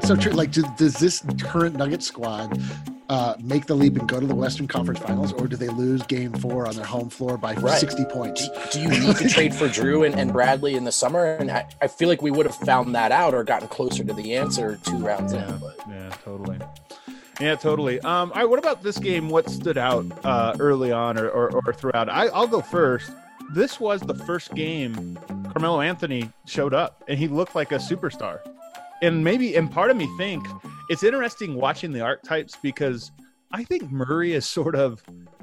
so true. Like, does this current Nugget squad make the leap and go to the Western Conference Finals, or do they lose Game 4 on their home floor by 60 points? Do you need to trade for Drew and Bradley in the summer? And I feel like we would have found that out or gotten closer to the answer 2 rounds in. But. Yeah, totally. Yeah, totally. All right, what about this game? What stood out early on or throughout? I'll go first. This was the first game Carmelo Anthony showed up, and he looked like a superstar. And part of me think it's interesting watching the archetypes, because I think Murray is sort of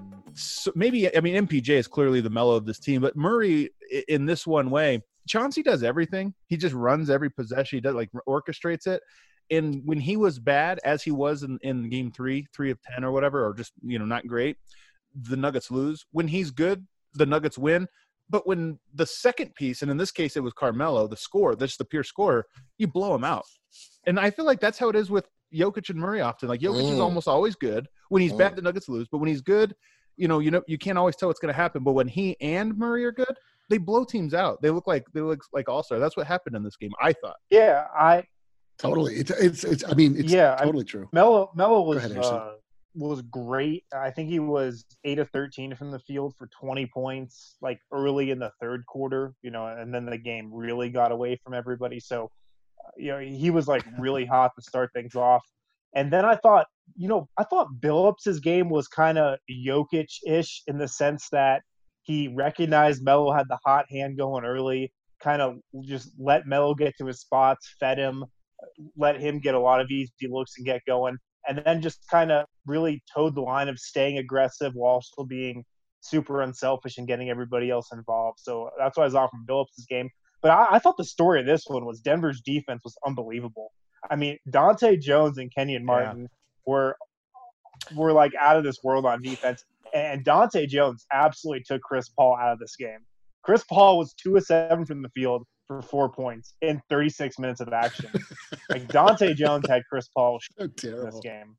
MPJ is clearly the Melo of this team, but Murray in this one way, Chauncey does everything. He just runs every possession. He does orchestrates it. And when he was bad, as he was in game 3 of 10 or whatever, or just, not great, the Nuggets lose. When he's good, the Nuggets win. But when the second piece, and in this case it was Carmelo, the score, that's the pure scorer, you blow him out. And I feel like that's how it is with Jokic and Murray often. Like Jokic is almost always good. When he's bad, the Nuggets lose. But when he's good, you can't always tell what's going to happen. But when he and Murray are good, they blow teams out. They look like all-star. That's what happened in this game, I thought. Yeah, Totally. It's totally true. Melo was great. I think he was 8 of 13 from the field for 20 points, like early in the third quarter, and then the game really got away from everybody. So, he was like really hot to start things off. And then I thought Billups' game was kind of Jokic-ish in the sense that he recognized Melo had the hot hand going early, kind of just let Melo get to his spots, fed him, let him get a lot of easy looks and get going, and then just kind of really towed the line of staying aggressive while still being super unselfish and getting everybody else involved. So that's what I was off from Billups' game. But I thought the story of this one was Denver's defense was unbelievable. I mean, Dante Jones and Kenyon Martin were like out of this world on defense, and Dante Jones absolutely took Chris Paul out of this game. Chris Paul was 2 of 7 from the field for 4 points in 36 minutes of action. Like Dante Jones had Chris Paul in this game.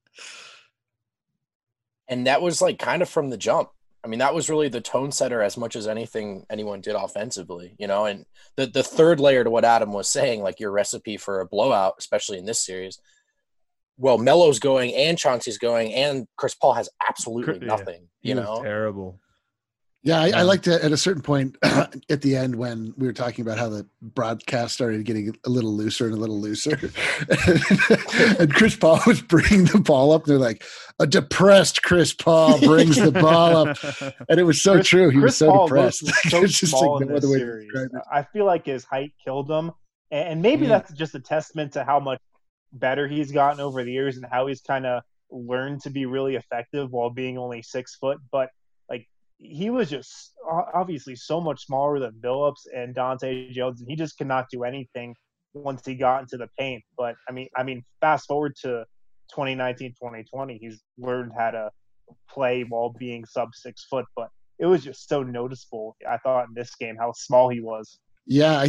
And that was like kind of from the jump. I mean, that was really the tone setter as much as anyone did offensively, and the third layer to what Adam was saying, like your recipe for a blowout, especially in this series. Well, Melo's going and Chauncey's going and Chris Paul has absolutely nothing, He was terrible. Yeah, I liked it at a certain point at the end when we were talking about how the broadcast started getting a little looser and a little looser. And Chris Paul was bringing the ball up. They're like, a depressed Chris Paul brings the ball up. And it was so true. He was so Paul depressed. So it's just small like no in other this way to series. describe it. I feel like his height killed him. And maybe that's just a testament to how much better he's gotten over the years and how he's kind of learned to be really effective while being only 6 foot. But he was just obviously so much smaller than Billups and Dante Jones, and he just could not do anything once he got into the paint. But I mean, fast forward to 2019, 2020, he's learned how to play while being sub 6 foot. But it was just so noticeable, I thought, in this game how small he was. Yeah,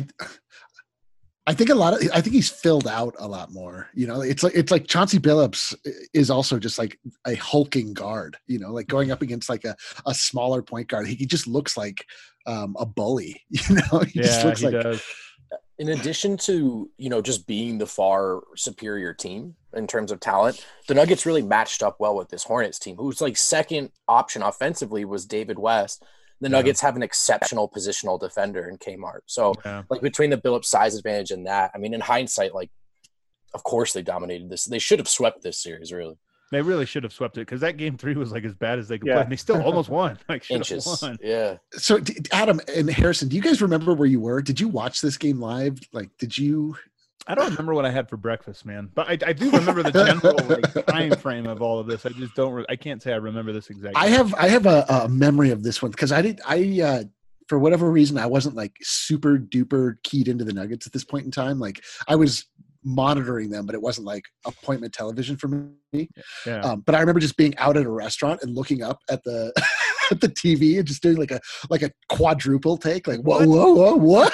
I think he's filled out a lot more. It's like Chauncey Billups is also just like a hulking guard. Like going up against like a smaller point guard, he just looks like a bully. He just looks like. Does. In addition to just being the far superior team in terms of talent, the Nuggets really matched up well with this Hornets team, whose like second option offensively was David West. The Nuggets have an exceptional positional defender in Kmart. So, like, between the Billups size advantage and that, I mean, in hindsight, like, of course they dominated this. They should have swept this series, really. They really should have swept it because that game 3 was, like, as bad as they could play. And they still almost won. Like, inches. Won. Yeah. So, Adam and Harrison, do you guys remember where you were? Did you watch this game live? Like, did you – I don't remember what I had for breakfast, man. But I do remember the general time frame of all of this. I just don't. I can't say I remember this exactly. I have a memory of this one because for whatever reason I wasn't like super duper keyed into the Nuggets at this point in time. Like I was monitoring them, but it wasn't like appointment television for me. Yeah. But I remember just being out at a restaurant and looking up at the at the TV and just doing like a quadruple take, like whoa, what?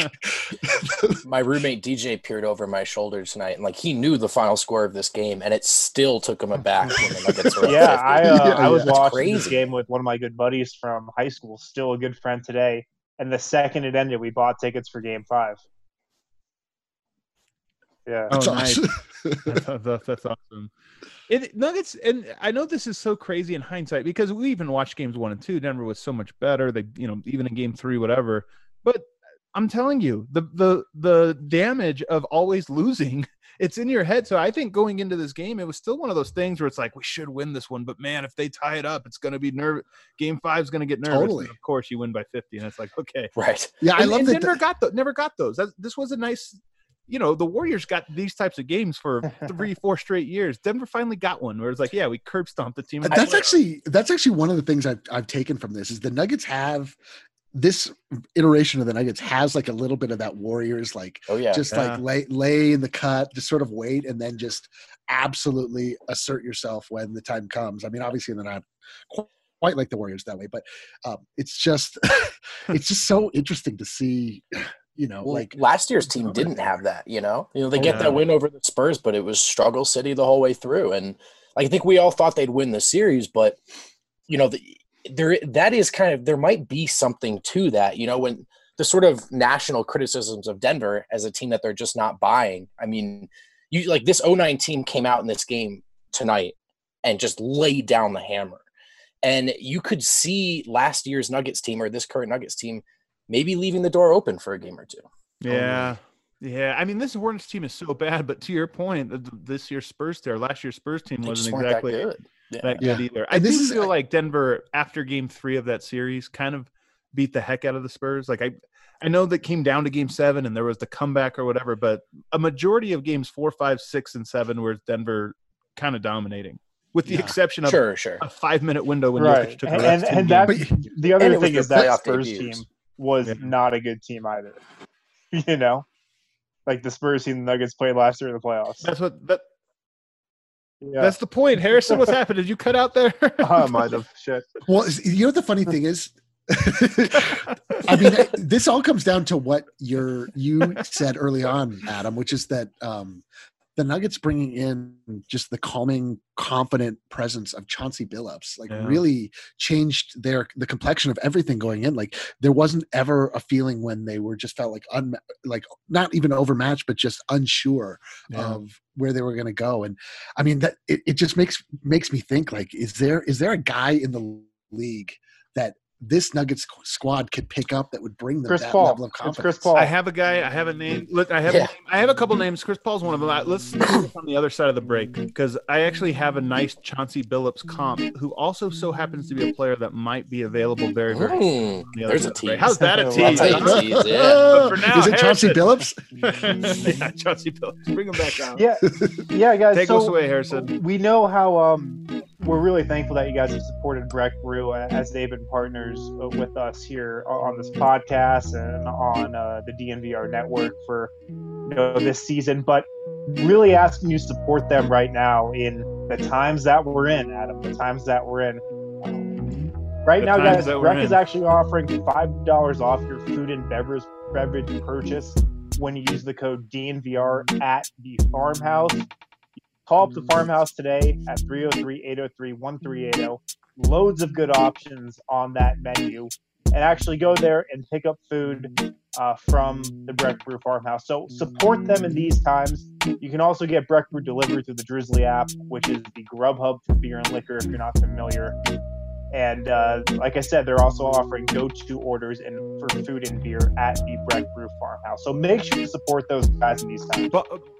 My roommate DJ peered over my shoulder tonight, and like he knew the final score of this game, and it still took him aback when the Nuggets were up 50. I was watching this game with one of my good buddies from high school, still a good friend today. And the second it ended, we bought tickets for Game 5. Yeah. Oh, nice. That's awesome. Nuggets, and I know this is so crazy in hindsight because we even watched games 1 and 2. Denver was so much better. They, even in game 3, whatever. But I'm telling you, the damage of always losing, it's in your head. So I think going into this game, it was still one of those things where it's like, we should win this one, but man, if they tie it up, it's going to be nervous. Game 5 is going to get nervous. Totally. And of course, you win by 50, and it's like, okay, right? Yeah, I love that. Denver never got those. This was a nice. The Warriors got these types of games for 3-4 straight years. Denver finally got one where it's like, yeah, we curb stomped the team. That's actually one of the things I've taken from this is the Nuggets have this iteration of the Nuggets has like a little bit of that Warriors, like, like lay in the cut, just sort of wait, and then just absolutely assert yourself when the time comes. I mean, obviously they're not quite like the Warriors that way, but it's just so interesting to see. Like last year's team didn't have that. They get that win over the Spurs, but it was struggle city the whole way through. And I think we all thought they'd win the series, but there might be something to that. When the sort of national criticisms of Denver as a team that they're just not buying. I mean, this 2009 team came out in this game tonight and just laid down the hammer, and you could see last year's Nuggets team or this current Nuggets team maybe leaving the door open for a game or two. Yeah. Yeah. I mean, this Hornets team is so bad, but to your point, last year's Spurs team wasn't exactly that good either. I feel like Denver, after game 3 of that series, kind of beat the heck out of the Spurs. Like I know that came down to game 7 and there was the comeback or whatever, but a majority of games 4, 5, 6, and 7 were Denver kind of dominating. With the exception of a 5-minute window when Jokic took a rest. And the other thing is that Spurs team was not a good team either. Like the Spurs team the Nuggets played last year in the playoffs. That's the point. Harrison, what's happened? Did you cut out there? I might have. Shit. Well, the funny thing is, I mean, this all comes down to what you said early on, Adam, which is that the Nuggets bringing in just the calming, confident presence of Chauncey Billups, really changed the complexion of everything going in. Like there wasn't ever a feeling when they were just felt like not even overmatched, but just unsure of where they were going to go. And I mean that it just makes me think, like, is there a guy in the league that this Nuggets squad could pick up that would bring them level of confidence? It's Chris Paul. I have a guy. I have a name. Look, I have a couple names. Chris Paul's one of them. Let's do this on the other side of the break because I actually have a nice Chauncey Billups comp who also so happens to be a player that might be available very, very soon. There's a tease. How's that a tease? But for now, is it Chauncey Billups? Yeah, Chauncey Billups. Bring him back on. Yeah, guys. Take us away, Harrison. We know how we're really thankful that you guys have supported Breck Brew as they've been partners with us here on this podcast and on the DNVR network for this season. But really asking you to support them right now in the times that we're in, Adam. The times that we're in. Right now, guys, Breck is actually offering $5 off your food and beverage purchase when you use the code DNVR at the Farmhouse. Call up the Farmhouse today at 303-803-1380. Loads of good options on that menu. And actually go there and pick up food from the Breck Brew Farmhouse. So support them in these times. You can also get Breck Brew delivered through the Drizzly app, which is the Grub Hub for beer and liquor if you're not familiar. And like I said, they're also offering go-to orders for food and beer at the Breck Brew Farmhouse. So make sure to support those guys in these times.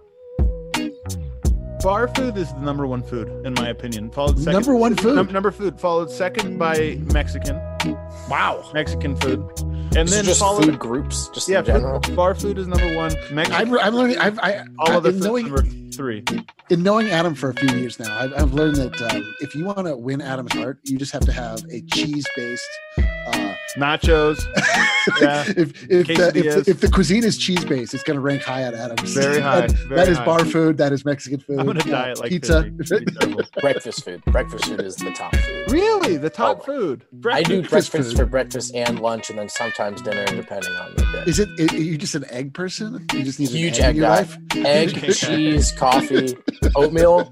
Bar food is the number one food, in my opinion. Followed second, number one food. Number food followed second by Mexican. Wow, Mexican food, and then just food groups. Just in general. Bar food is number one. Mexican. I'm learning. All other foods number 3. In knowing Adam for a few years now, I've learned that if you want to win Adam's heart, you just have to have a cheese-based nachos. Yeah. if the cuisine is cheese-based, it's going to rank high at Adam's. Very high. That is bar food. That is Mexican food. I'm going to diet like pizza. Breakfast food. Breakfast food is the top food. Really? The top food? I do breakfast for breakfast and lunch, and then sometimes dinner, depending on the day. Is it? Are you just an egg person? You just need huge an egg in your life? Egg, cheese, coffee, oatmeal.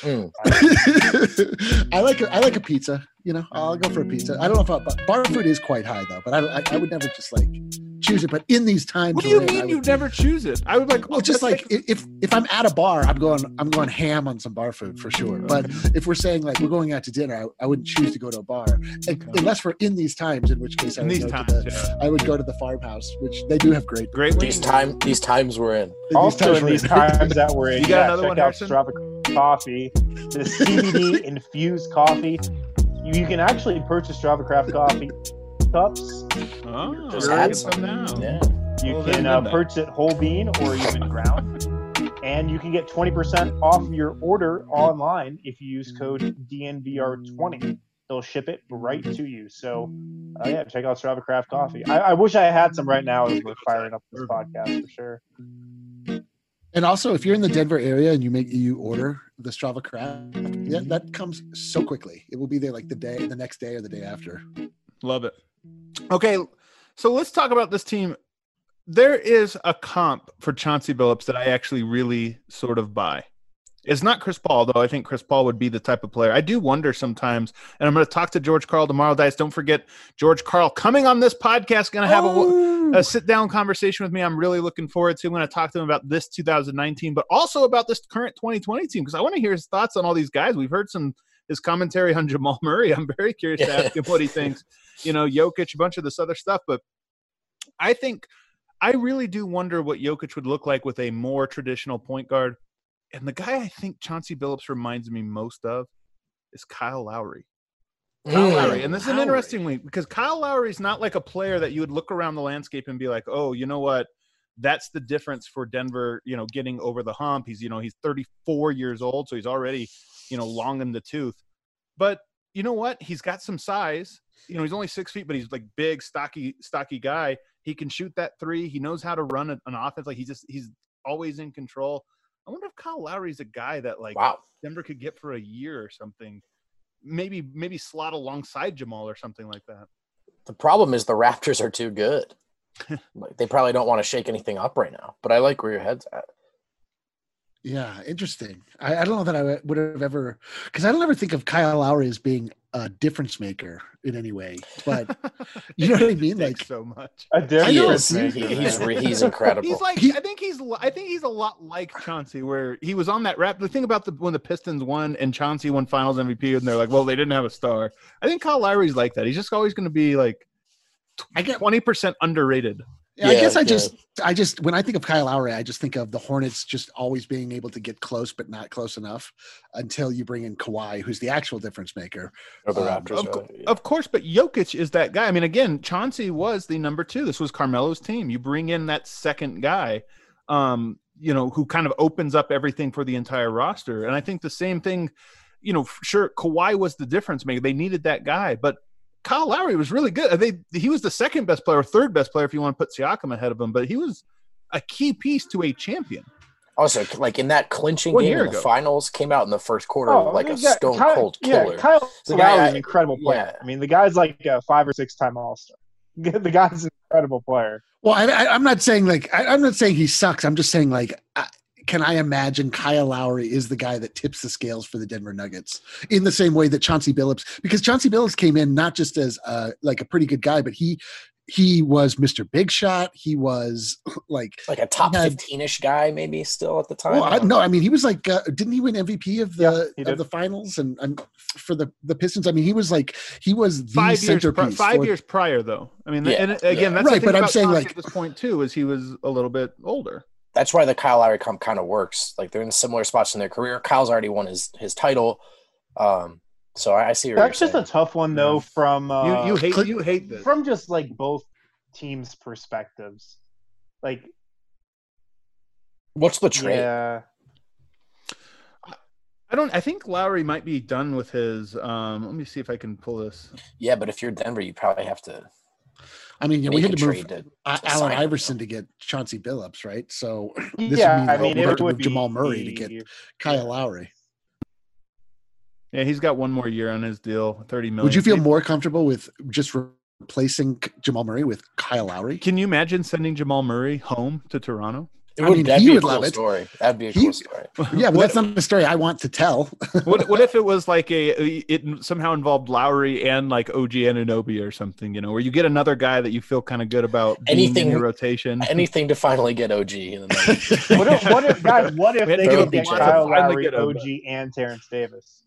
I like a pizza. I'll go for a pizza. I don't know if bar food is quite high though, but I would never just like choose it, but in these times, What do you mean you never choose it? I would like. Well, just like if I'm at a bar, I'm going ham on some bar food for sure. But if we're saying like we're going out to dinner, I wouldn't choose to go to a bar unless we're in these times. In which case, I would go to the farmhouse, which they do have great. These times we're in. Also, in these times that we're in, you got another one, check out Strava Coffee, the CBD infused coffee. You can actually purchase Strava Craft coffee cups. Oh, Just add some now. Yeah. You can purchase it whole bean or even ground. And you can get 20% off your order online if you use code DNVR20. They'll ship it right to you. So, check out Strava Craft Coffee. I wish I had some right now as we're firing up this podcast for sure. And also, if you're in the Denver area and you order the Strava Craft, that comes so quickly. It will be there like the next day or the day after. Love it. Okay, so let's talk about this team. There is a comp for Chauncey Billups that I actually really sort of buy. It's not Chris Paul, though. I think Chris Paul would be the type of player. I do wonder sometimes, and I'm going to talk to George Karl tomorrow, guys. Don't forget, George Karl coming on this podcast, going to have a sit-down conversation with me. I'm really looking forward to. I'm going to talk to him about this 2019, but also about this current 2020 team, because I want to hear his thoughts on all these guys. We've heard his commentary on Jamal Murray. I'm very curious to ask him what he thinks. Jokic, a bunch of this other stuff, but I really do wonder what Jokic would look like with a more traditional point guard. And the guy I think Chauncey Billups reminds me most of is Kyle Lowry. And this is an interesting link because Kyle Lowry is not like a player that you would look around the landscape and be like, oh, you know what? That's the difference for Denver, getting over the hump. He's 34 years old, so he's already, long in the tooth. But you know what? He's got some size. He's only 6 feet, but he's like big, stocky guy. He can shoot that three. He knows how to run an offense. Like he's always in control. I wonder if Kyle Lowry's a guy that Denver could get for a year or something. Maybe slot alongside Jamal or something like that. The problem is the Raptors are too good. They probably don't want to shake anything up right now. But I like where your head's at. Yeah, interesting. I don't know that I would have ever – because I don't ever think of Kyle Lowry as being a difference maker in any way. But you know what I mean? Like so much. A difference maker. He's incredible. He's like I think he's a lot like Chauncey, where he was on that rap. The thing about when the Pistons won and Chauncey won Finals MVP, and they're like, well, they didn't have a star. I think Kyle Lowry's like that. He's just always going to be like 20% underrated. Yeah, I guess I just when I think of Kyle Lowry, I just think of the Hornets just always being able to get close, but not close enough until you bring in Kawhi, who's the actual difference maker. Or the Raptors, of course, but Jokic is that guy. I mean, again, Chauncey was the number 2. This was Carmelo's team. You bring in that second guy, who kind of opens up everything for the entire roster. And I think the same thing, sure, Kawhi was the difference maker. They needed that guy, but Kyle Lowry was really good. He was the second best player, or third best player if you want to put Siakam ahead of him, but he was a key piece to a champion. Also, like in that clinching game in the finals, came out in the first quarter like a stone-cold killer. Kyle Lowry's an incredible player. Yeah. I mean, the guy's like a 5 or 6 time All-Star. The guy's an incredible player. Well, I'm not saying I'm not saying he sucks. I'm just saying can I imagine Kyle Lowry is the guy that tips the scales for the Denver Nuggets in the same way that Chauncey Billups, because Chauncey Billups came in not just as a pretty good guy, but he was Mr. Big Shot. He was like a top 15-ish guy, maybe still at the time. Well, he was like, didn't he win MVP of the finals and for the Pistons? I mean, he was the 5 years prior, though. I mean, that's right. But I'm saying at this point too is he was a little bit older. That's why the Kyle Lowry comp kind of works. Like they're in similar spots in their career. Kyle's already won his title. So I see. That's just a tough one though. From you hate this. From just like both teams' perspectives. Like, what's the trade? Yeah. I think Lowry might be done with his. Let me see if I can pull this. Yeah, but if you're Denver, you probably have to. I mean, we had to move Allen Iverson to get Chauncey Billups, right? So this would mean Jamal Murray to get Kyle Lowry. Yeah, he's got one more year on his deal, $30 million. Would you feel more comfortable with just replacing Jamal Murray with Kyle Lowry? Can you imagine sending Jamal Murray home to Toronto? That'd he be would a cool love it. story. That'd be a cool story. Yeah, but that's not a story I want to tell. What if it was like it somehow involved Lowry and like OG Anunoby or something, where you get another guy that you feel kind of good about being in your rotation. Anything to finally get OG in the what if they could get Kyle Lowry, OG, and Terrence Davis?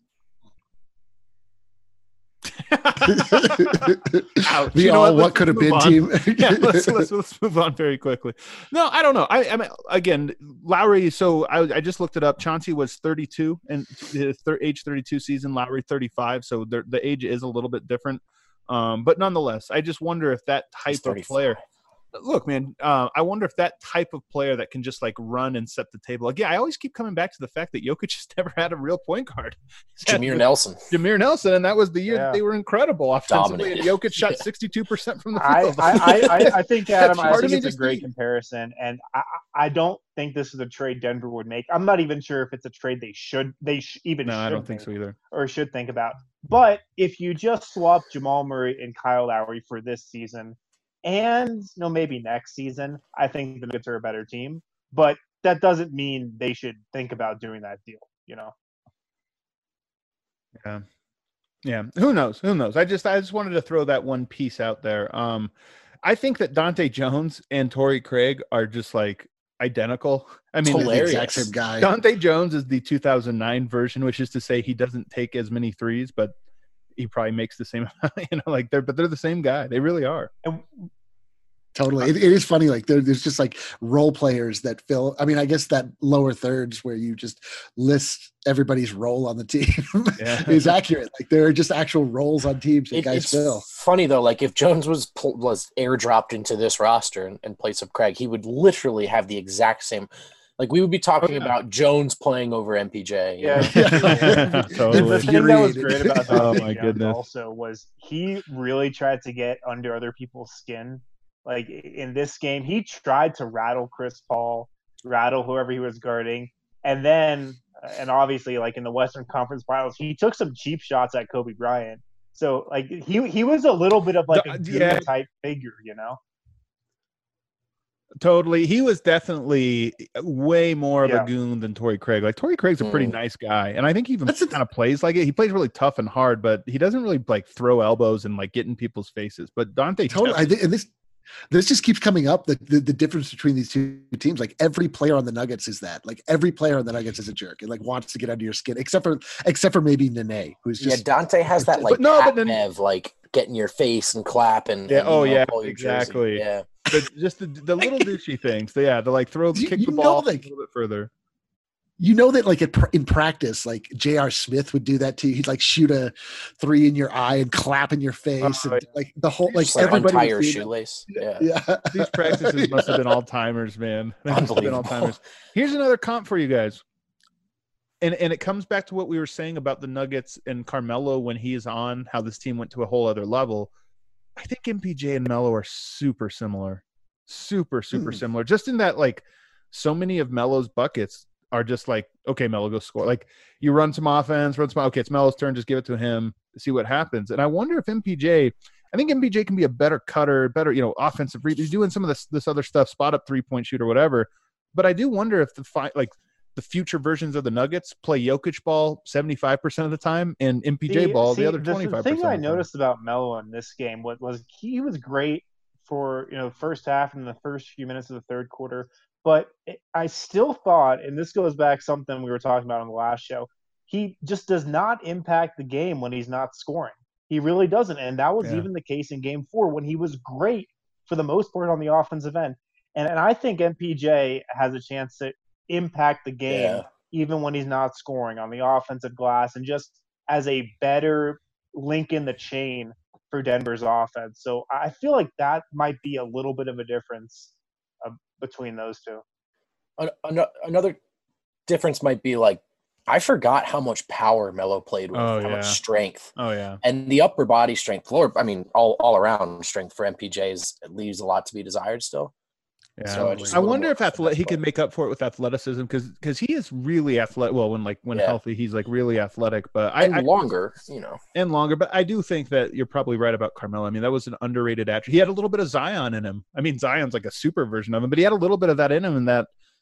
What could have been team. Yeah, let's move on very quickly. No, I don't know. I mean, again, Lowry. So I just looked it up. Chauncey was 32 and age 32 season. Lowry 35. So the age is a little bit different. But nonetheless, I just wonder if that type of player. Look, man, I wonder if that type of player that can just like run and set the table. Again, I always keep coming back to the fact that Jokic just never had a real point guard. Jameer Nelson, and that was the year that they were incredible offensively. And Jokic shot 62% from the field. I think, Adam, I think it's a great comparison, and I don't think this is a trade Denver would make. I'm not even sure if it's a trade they should I don't think so either, or should think about. But if you just swap Jamal Murray and Kyle Lowry for this season. And maybe next season, I think the Nuggets are a better team, but that doesn't mean they should think about doing that deal. Yeah. Who knows? I just wanted to throw that one piece out there. I think that Dante Jones and Torrey Craig are just like identical. I mean, the exact same guy. Dante Jones is the 2009 version, which is to say he doesn't take as many threes, but he probably makes the same amount, they're the same guy. They really are. Totally. It is funny. Like there's just like role players that fill. I mean, I guess that lower thirds where you just list everybody's role on the team is accurate. Like there are just actual roles on teams that guys fill. Funny though, like if Jones was airdropped into this roster in place of Craig, he would literally have the exact same. Like we would be talking about Jones playing over MPJ. Totally. The thing that was great about Dante Jones also was he really tried to get under other people's skin. Like in this game, he tried to rattle Chris Paul, rattle whoever he was guarding, and then, and obviously, like in the Western Conference Finals, he took some cheap shots at Kobe Bryant. So, like he was a little bit of like a goon type figure, Totally. He was definitely way more of a goon than Torrey Craig. Like Torrey Craig's a pretty nice guy. And I think he even kind of plays like it. He plays really tough and hard, but he doesn't really like throw elbows and like get in people's faces. But Dante totally. I think, and this just keeps coming up, the difference between these two teams. Like every player on the Nuggets is that. Like every player on the Nuggets is a jerk and like wants to get under your skin, except for maybe Nene, who's just Dante has that like Nev, like get in your face and clap and exactly. Yeah. But just the little douchey things. The like kick the ball a little bit further. That like in practice, like J.R. Smith would do that to you. He'd like shoot a 3 in your eye and clap in your face, and like the whole like everybody untie your shoelace. Yeah. These practices must have been all timers, man. Here's another comp for you guys, and it comes back to what we were saying about the Nuggets and Carmelo when he is on. How this team went to a whole other level. I think MPJ and Melo are super similar, super similar. Just in that, like, so many of Melo's buckets are just like, okay, Melo, go score. Like you run some offense, okay, it's Melo's turn, just give it to him, see what happens. And I wonder if I think MPJ can be a better cutter, better, offensive read. He's doing some of this other stuff, spot up 3-point shooter, whatever. But I do wonder if the future versions of the Nuggets play Jokic ball 75% of the time and MPJ ball the other 25%. The thing I noticed about Melo in this game was he was great for the first half and the first few minutes of the third quarter. But I still thought, and this goes back something we were talking about on the last show, he just does not impact the game when he's not scoring. He really doesn't. And that was even the case in Game 4 when he was great for the most part on the offensive end. And I think MPJ has a chance to impact the game even when he's not scoring on the offensive glass and just as a better link in the chain for Denver's offense. So I feel like that might be a little bit of a difference between those two. Another difference might be like I forgot how much power Melo played with, how much strength. Oh yeah, and the upper body strength, floor. I mean, all around strength for MPJ leaves a lot to be desired still. Yeah, so I wonder if he could make up for it with athleticism because he is really athletic. Well, when healthy, he's like really athletic, but longer. But I do think that you're probably right about Carmelo. I mean, that was an underrated attribute. He had a little bit of Zion in him. I mean, Zion's like a super version of him, but he had a little bit of that in him, and that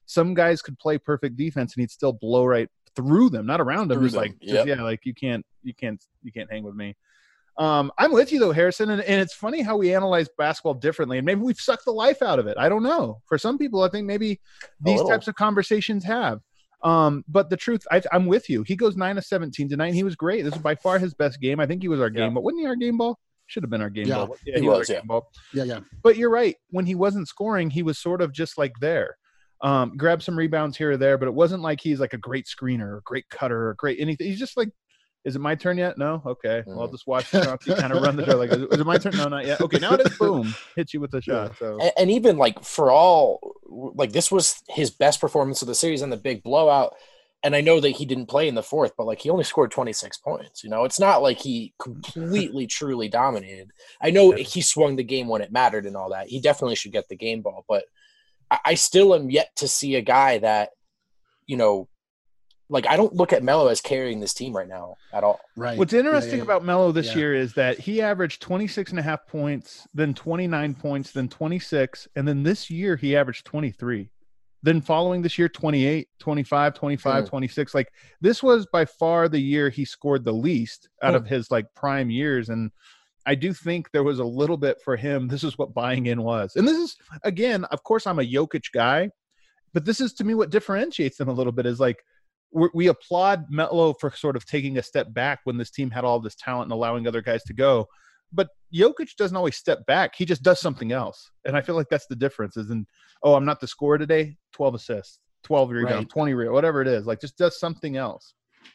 some guys could play perfect defense and he'd still blow right through them, not around them. Through Just them, like, yep. yeah, like you can't hang with me. I'm with you though, Harrison, and it's funny how we analyze basketball differently, and maybe we've sucked the life out of it. I don't know. For some people, I think maybe these types of conversations have. But the truth, I'm with you. He goes 9 of 17 tonight. He was great. This is by far his best game. I think he was our game, but wasn't he our game ball? Should have been our game ball. Yeah, he was our game ball. Yeah. But you're right. When he wasn't scoring, he was sort of just like there. Grabbed some rebounds here or there, but it wasn't like he's like a great screener or great cutter or great anything. He's just like, is it my turn yet? No? Okay. Well, I'll just watch Chauncey kind of run the show. Like, is it my turn? No, not yet. Okay, now it is. Boom. Hit you with a shot. So. And even like for all, like this was his best performance of the series and the big blowout. And I know that he didn't play in the fourth, but like he only scored 26 points. You know, it's not like he completely, truly dominated. I know he swung the game when it mattered and all that. He definitely should get the game ball, but I still am yet to see a guy that, you know, like I don't look at Melo as carrying this team right now at all. Right. What's interesting about Melo this year is that he averaged 26.5 points, then 29 points, then 26, and then this year he averaged 23. Then following this year, 28, 25, 25, 26. Like this was by far the year he scored the least out of his like prime years. And I do think there was a little bit for him. This is what buying in was. And this is, again, of course I'm a Jokic guy, but this is to me what differentiates them a little bit is like, we applaud Melo for sort of taking a step back when this team had all this talent and allowing other guys to go. But Jokic doesn't always step back. He just does something else. And I feel like that's the difference is I'm not the scorer today, 12 assists, 12 rebounds, 20 rebounds, whatever it is. Like just does something else.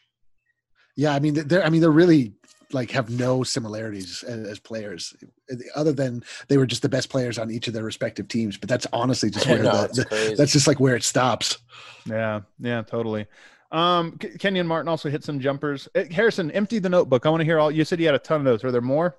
Yeah, I mean, they're really like have no similarities as players other than they were just the best players on each of their respective teams. But that's honestly just where that's just like where it stops. Yeah, totally. Kenyon Martin also hit some jumpers. Harrison, empty the notebook. I want to hear all. You said you had a ton of those. Are there more?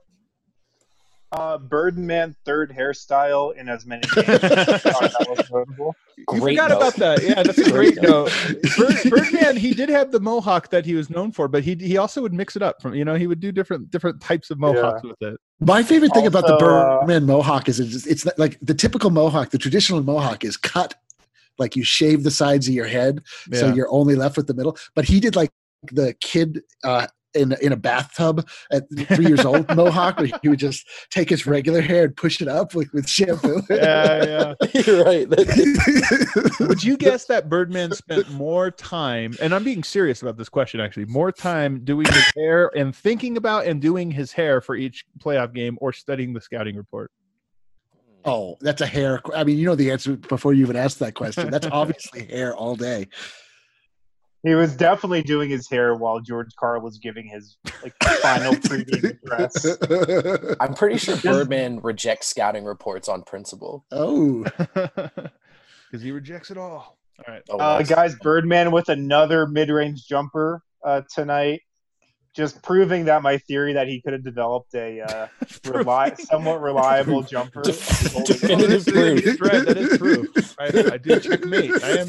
Birdman third hairstyle in as many games. That was notable. You forgot about that. Yeah, that's a great note. Birdman, he did have the mohawk that he was known for, but he also would mix it up. From he would do different types of mohawks with it. My favorite thing about the Birdman mohawk is it's not, like the typical mohawk. The traditional mohawk is cut. Like you shave the sides of your head, so you're only left with the middle. But he did like the kid in a bathtub at 3 years old mohawk, where he would just take his regular hair and push it up with shampoo. Yeah. You're right. Would you guess that Birdman spent more time, and I'm being serious about this question actually, more time doing his hair and thinking about and doing his hair for each playoff game or studying the scouting report? Oh, that's a hair. I mean, you know the answer before you even asked that question. That's obviously hair all day. He was definitely doing his hair while George Karl was giving his final pregame address. I'm pretty sure Birdman rejects scouting reports on principle. Oh, because he rejects it all. All right, guys, Birdman with another mid-range jumper tonight. Just proving that my theory that he could have developed a somewhat reliable jumper. Definitive proof. Right, that is proof. I do checkmate. I am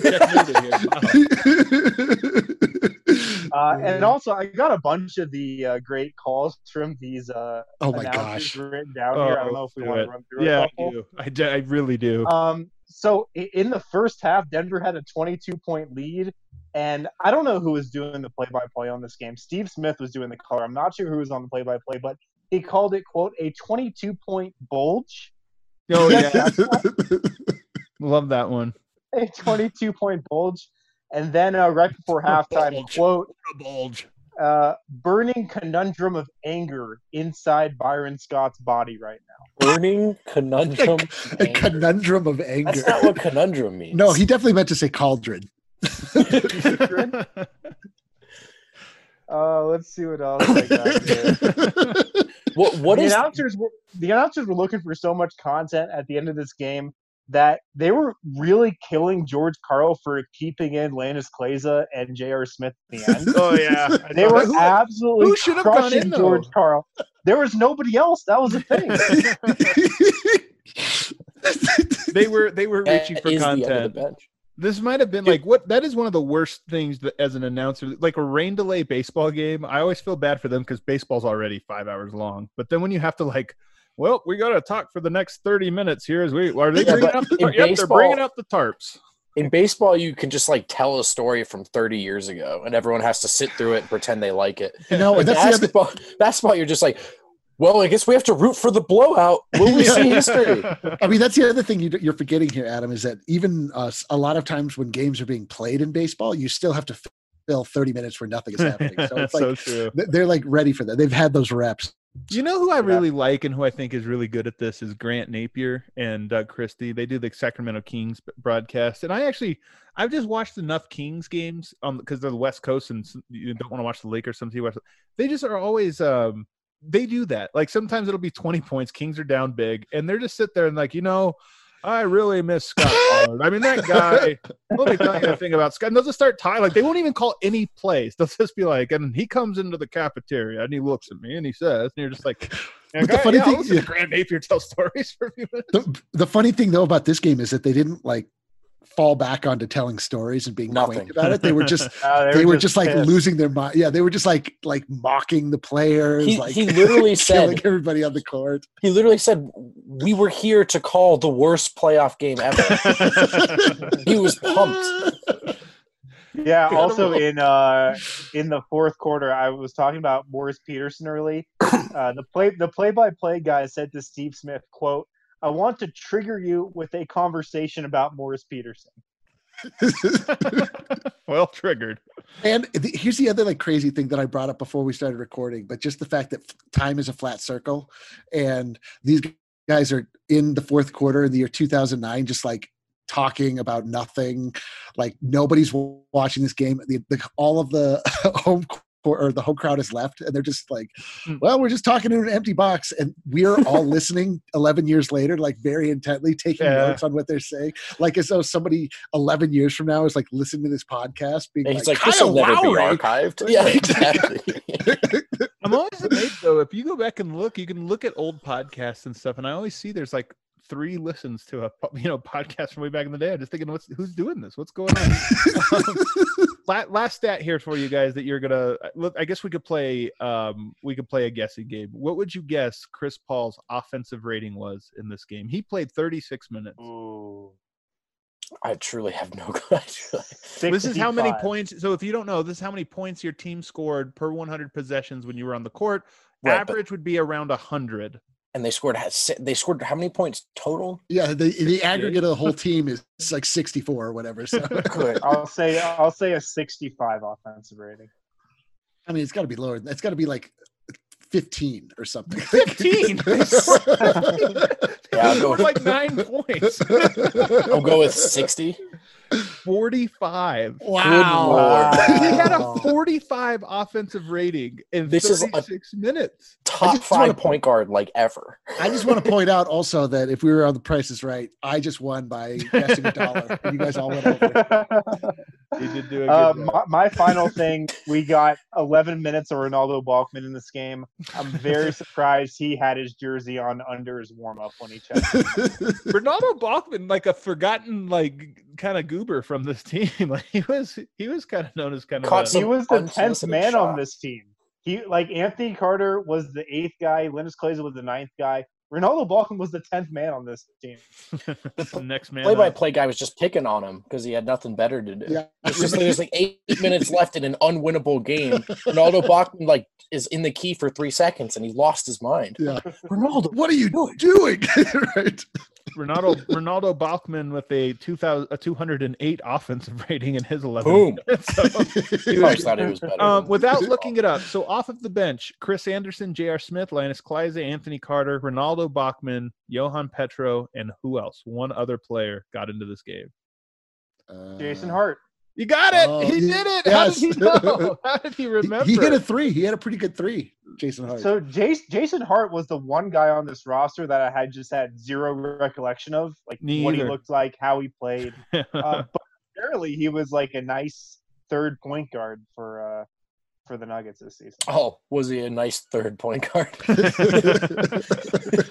checkmated here. And also, I got a bunch of the great calls from these announcers written down here. I don't know if we want to run through it. I do. I really do. So in the first half, Denver had a 22-point lead. And I don't know who was doing the play-by-play on this game. Steve Smith was doing the color. I'm not sure who was on the play-by-play, but he called it, quote, a 22-point bulge. Oh, yeah. Love that one. A 22-point bulge. And then right before halftime, quote, bulge. Burning conundrum of anger inside Byron Scott's body right now. Burning conundrum a conundrum of anger. That's not what conundrum means. No, he definitely meant to say cauldron. Let's see what else I got here. The announcers were looking for so much content at the end of this game that they were really killing George Karl for keeping in Lannis Kleza and J.R. Smith at the end. Oh yeah, they were absolutely crushing George Karl. There was nobody else. That was the thing. They were reaching for content. This might have been that is one of the worst things that, as an announcer, like a rain delay baseball game. I always feel bad for them because baseball's already 5 hours long. But then when you have to we got to talk for the next 30 minutes here. They're bringing out the tarps. In baseball, you can just like tell a story from 30 years ago, and everyone has to sit through it and pretend they like it. No, Like basketball, you're just like, well, I guess we have to root for the blowout. Will we see history? I mean, that's the other thing you're forgetting here, Adam, is that even a lot of times when games are being played in baseball, you still have to fill 30 minutes where nothing is happening. So it's like so true. They're like ready for that. They've had those reps. You know who I really like and who I think is really good at this is Grant Napier and Doug Christie. They do the Sacramento Kings broadcast, and I've just watched enough Kings games because they're the West Coast and you don't want to watch the Lakers. They just are always they do that. Like sometimes it'll be 20 points, Kings are down big, and they're just sit there and like, I really miss Scott Pollard. I mean, that guy, let me tell you the thing about Scott. And they'll just start tying. Like, they won't even call any plays. They'll just be like, and he comes into the cafeteria and he looks at me and he says, and you're just like, but the funny thing, Grant Napier tell stories for a few minutes. The funny thing, though, about this game is that they didn't, like, fall back onto telling stories and being quaint about it. They were just they were just like losing their mind. Yeah, they were just like mocking the players. He literally said everybody on the court. He literally said, "We were here to call the worst playoff game ever." He was pumped. Yeah. Also in the fourth quarter, I was talking about Morris Peterson early. The play-by-play guy said to Steve Smith, quote, "I want to trigger you with a conversation about Morris Peterson." Well triggered. And here's the other like crazy thing that I brought up before we started recording, but just the fact that time is a flat circle, and these guys are in the fourth quarter in the year 2009, just like talking about nothing, like nobody's watching this game. All of the home crowd is left, and they're just like, well, we're just talking in an empty box, and we're all listening 11 years later, like very intently taking notes on what they're saying, like as though somebody 11 years from now is like listening to this podcast being he's like this will never be archived. Yeah, exactly. I'm always amazed though, if you go back and look, you can look at old podcasts and stuff, and I always see there's like 3 listens to a podcast from way back in the day. I'm just thinking, who's doing this? What's going on? Last stat here for you guys that you're gonna look. I guess we could play a guessing game. What would you guess Chris Paul's offensive rating was in this game? He played 36 minutes. Ooh. I truly have no idea. This is how many points. So if you don't know, this is how many points your team scored per 100 possessions when you were on the court. Right, average would be around 100. And they scored how many points total? Yeah, the aggregate of the whole team is like 64 or whatever. So good. I'll say a 65 offensive rating. I mean, it's got to be lower. It's got to be like 15 or something. 15. Yeah, I'll go with like 9 points. I'll go with 60. 45. Wow. He had a 45 offensive rating in 36 minutes. Top 5 point guard like ever. I just want to point out also that if we were on The Price is Right, I just won by guessing $1. And you guys all went over. You did do a good job. My final thing, we got 11 minutes of Ronaldo Balkman in this game. I'm very surprised he had his jersey on under his warm-up when he checked. Ronaldo Balkman, like a forgotten, like kind of goober from this team. Like he was kind of known as kind of. He was the 10th man on this team. He like Anthony Carter was the 8th guy. Linus Kleiza was the 9th guy. Ronaldo Balkman was the 10th man on this team. The next man. Play-by-play guy was just picking on him because he had nothing better to do. Yeah. There's like 8 minutes left in an unwinnable game. Ronaldo Balkman like is in the key for 3 seconds and he lost his mind. Yeah. Ronaldo, what are you doing? Right. Ronaldo Balkman with a 208 offensive rating in his 11. Boom. So, he thought it was better. Without looking it up, so off of the bench, Chris Anderson, J.R. Smith, Linus Kleiza, Anthony Carter, Ronaldo Balkman, Johan Petro, and who else? One other player got into this game. Jason Hart. You got it. He did it. Yes. How did he know? How did he remember? He hit a 3. He had a pretty good 3, Jason Hart. So Jason Hart was the one guy on this roster that I had zero recollection of, like what he looked like, how he played. But apparently he was like a nice third point guard for the Nuggets this season. Oh, was he a nice third point guard?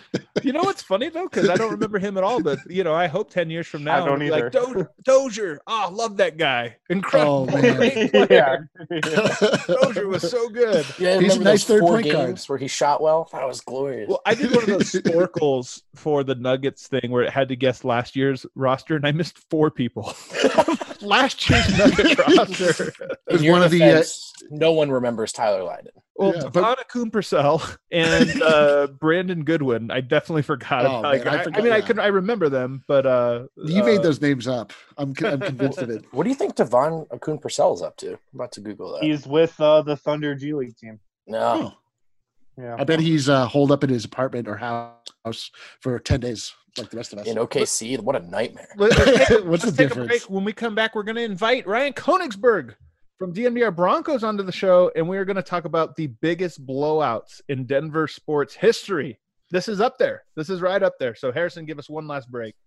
You know what's funny though, because I don't remember him at all. But I hope 10 years from now, I don't like Dozier. Oh, love that guy. Incredible. Oh, man. Yeah. Dozier was so good. Yeah, I He's a remember nice those 4 third-point guard. games where he shot well. That was glorious. Well, I did one of those snorkels for the Nuggets thing where it had to guess last year's roster, and I missed 4 people. Last year's Nuggets roster. It was In your one of the defense, no one remembers Tyler Lydon. Well, Yeah, Devon Akoon-Purcell and Brandon Goodwin. I definitely forgot Oh, about. man, I forgot, I remember them, but you made those names up. I'm convinced of it. What do you think Devon Akoon-Purcell is up to? I'm about to Google that. He's with the Thunder G League team. No. Oh, Yeah. I bet he's holed up in his apartment or house for 10 days, like the rest of us. In OKC, what a nightmare. What's the let's take a difference? break. When we come back, we're going to invite Ryan Koenigsberg from DNVR Broncos onto the show, and we are going to talk about the biggest blowouts in Denver sports history. This is up there. This is right up there. So, Harrison, give us one last break.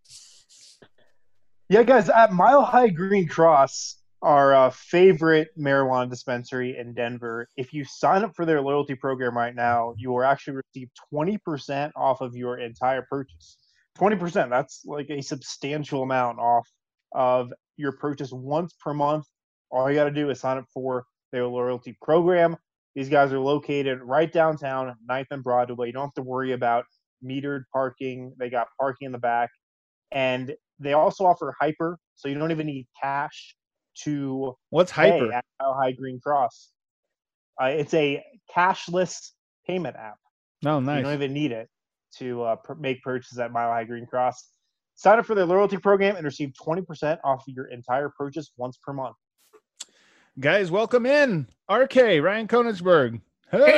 Yeah, guys, at Mile High Green Cross, our favorite marijuana dispensary in Denver, if you sign up for their loyalty program right now, you will actually receive 20% off of your entire purchase. 20%, that's like a substantial amount off of your purchase once per month. All you got to do is sign up for their loyalty program. These guys are located right downtown, 9th and Broadway. You don't have to worry about metered parking. They got parking in the back. And they also offer Hyper, so you don't even need cash to What's pay Hyper? at Mile High Green Cross. It's a cashless payment app. Oh, You nice. don't even need it to make purchases at Mile High Green Cross. Sign up for their loyalty program and receive 20% off your entire purchase once per month. Guys, welcome in. RK, Ryan Koenigsberg. Hey.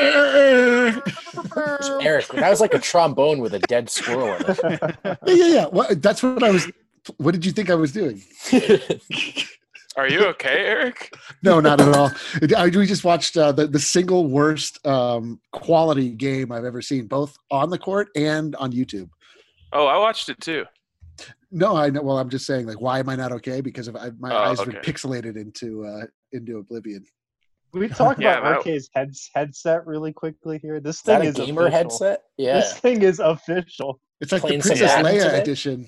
Eric, that was like a trombone with a dead squirrel in it. Yeah. That's what I was. What did you think I was doing? Are you okay, Eric? No, not at all. We just watched the single worst quality game I've ever seen, both on the court and on YouTube. Oh, I watched it too. No, I know. Well, I'm just saying, like, why am I not okay? Because my eyes have been okay. pixelated into oblivion. We talk Yeah, about that- RK's headset really quickly here. This Is that thing a is gamer official. headset? Yeah. This thing is official. It's like Playing the some Princess Madden Leia today? edition.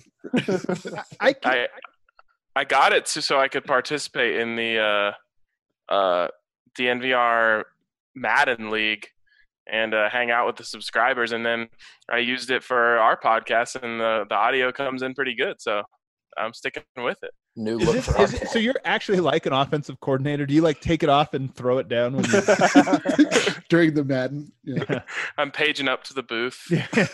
I got it so I could participate in the DNVR Madden League and hang out with the subscribers, and then I used it for our podcast, and the audio comes in pretty good, so I'm sticking with it. New look for RK. So you're actually like an offensive coordinator? Do you like take it off and throw it down when you During the Madden. Yeah. I'm paging up to the booth.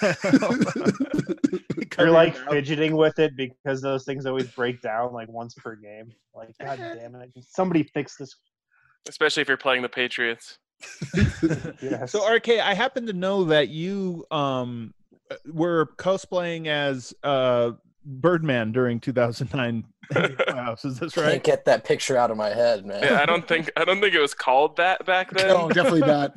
You're like fidgeting with it because those things always break down like once per game. Like, God damn it. Somebody fix this. Especially if you're playing the Patriots. Yes. So RK, I happen to know that you were cosplaying as Birdman during 2009 playoffs. Is this Can't right? get that picture out of my head, man. Yeah, I don't think it was called that back then. No, definitely not.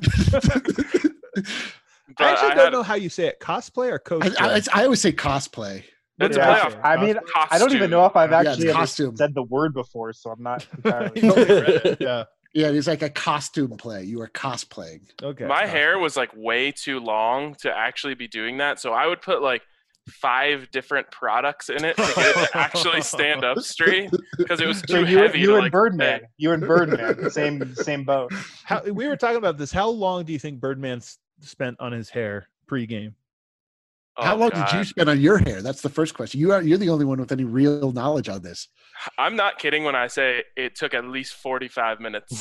But I actually I don't had- know how you say it. Cosplay or cosplay? I always say cosplay. It's Yeah. playoff I mean, I don't even know if I've Yeah, it's actually ever costume. said the word before, so I'm not entirely You totally read it. Yeah. Yeah, it's like a costume play. You are cosplaying. Okay. My hair was like way too long to actually be doing that, so I would put like 5 different products in it to get it to actually stand up straight because it was So too you, heavy. you to, and like, Birdman. stay. You and Birdman. Same boat. We were talking about this. How long do you think Birdman spent on his hair pregame? How Oh, long did you God. spend on your hair? That's the first question. You're the only one with any real knowledge on this. I'm not kidding when I say it took at least 45 minutes.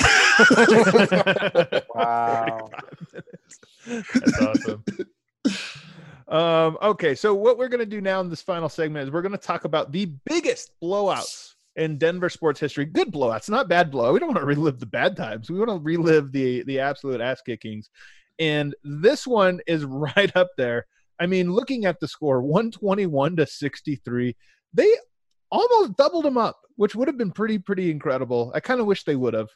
Wow. That's awesome. Okay, so what we're going to do now in this final segment is we're going to talk about the biggest blowouts in Denver sports history. Good blowouts, not bad blowout. We don't want to relive the bad times. We want to relive the absolute ass kickings. And this one is right up there. I mean, looking at the score, 121-63, they almost doubled them up, which would have been pretty incredible. I kind of wish they would have.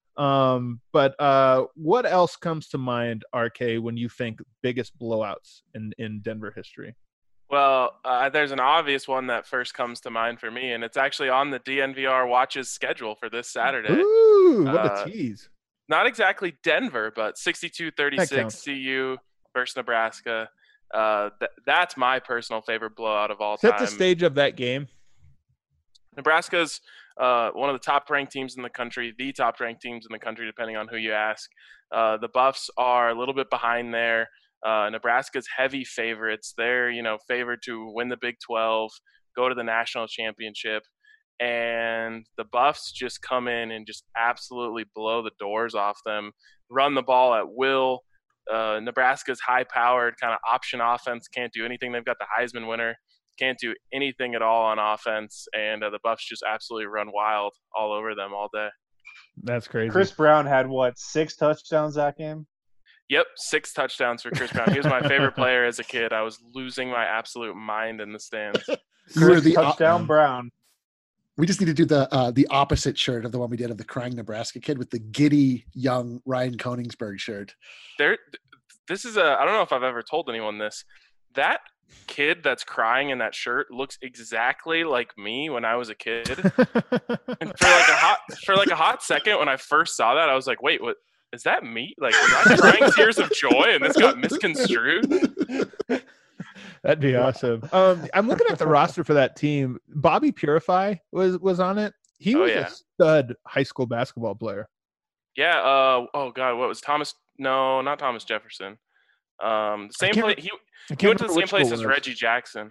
But what else comes to mind, RK, when you think biggest blowouts in Denver history? Well, there's an obvious one that first comes to mind for me, and it's actually on the DNVR Watch's schedule for this Saturday. Ooh, what a tease. Not exactly Denver, but That 62-36 counts. CU versus Nebraska. That's my personal favorite blowout of all Set time. the stage of that game. Nebraska's one of the top-ranked teams in the country, the top-ranked teams in the country, depending on who you ask. The Buffs are a little bit behind there. Nebraska's heavy favorites. They're, favored to win the Big 12, go to the national championship. And the Buffs just come in and just absolutely blow the doors off them, run the ball at will. Nebraska's high-powered kind of option offense can't do anything. They've got the Heisman winner, can't do anything at all on offense, and the Buffs just absolutely run wild all over them all day. That's crazy. Chris Brown had, 6 touchdowns that game? Yep, 6 touchdowns for Chris Brown. He was my favorite player as a kid. I was losing my absolute mind in the stands. You were the touchdown Brown. We just need to do the opposite shirt of the one we did of the crying Nebraska kid with the giddy young Ryan Koenigsberg shirt. This is I don't know if I've ever told anyone this. That kid that's crying in that shirt looks exactly like me when I was a kid. And for like a hot second when I first saw that, I was like, wait, what is that me? Like, was I crying tears of joy and this got misconstrued? That'd be awesome. I'm looking at the roster for that team. Bobby Purify was on it. He was a stud high school basketball player. Yeah. Oh God, what was Thomas? No, not Thomas Jefferson. Same place. He went to the same place as Reggie Jackson.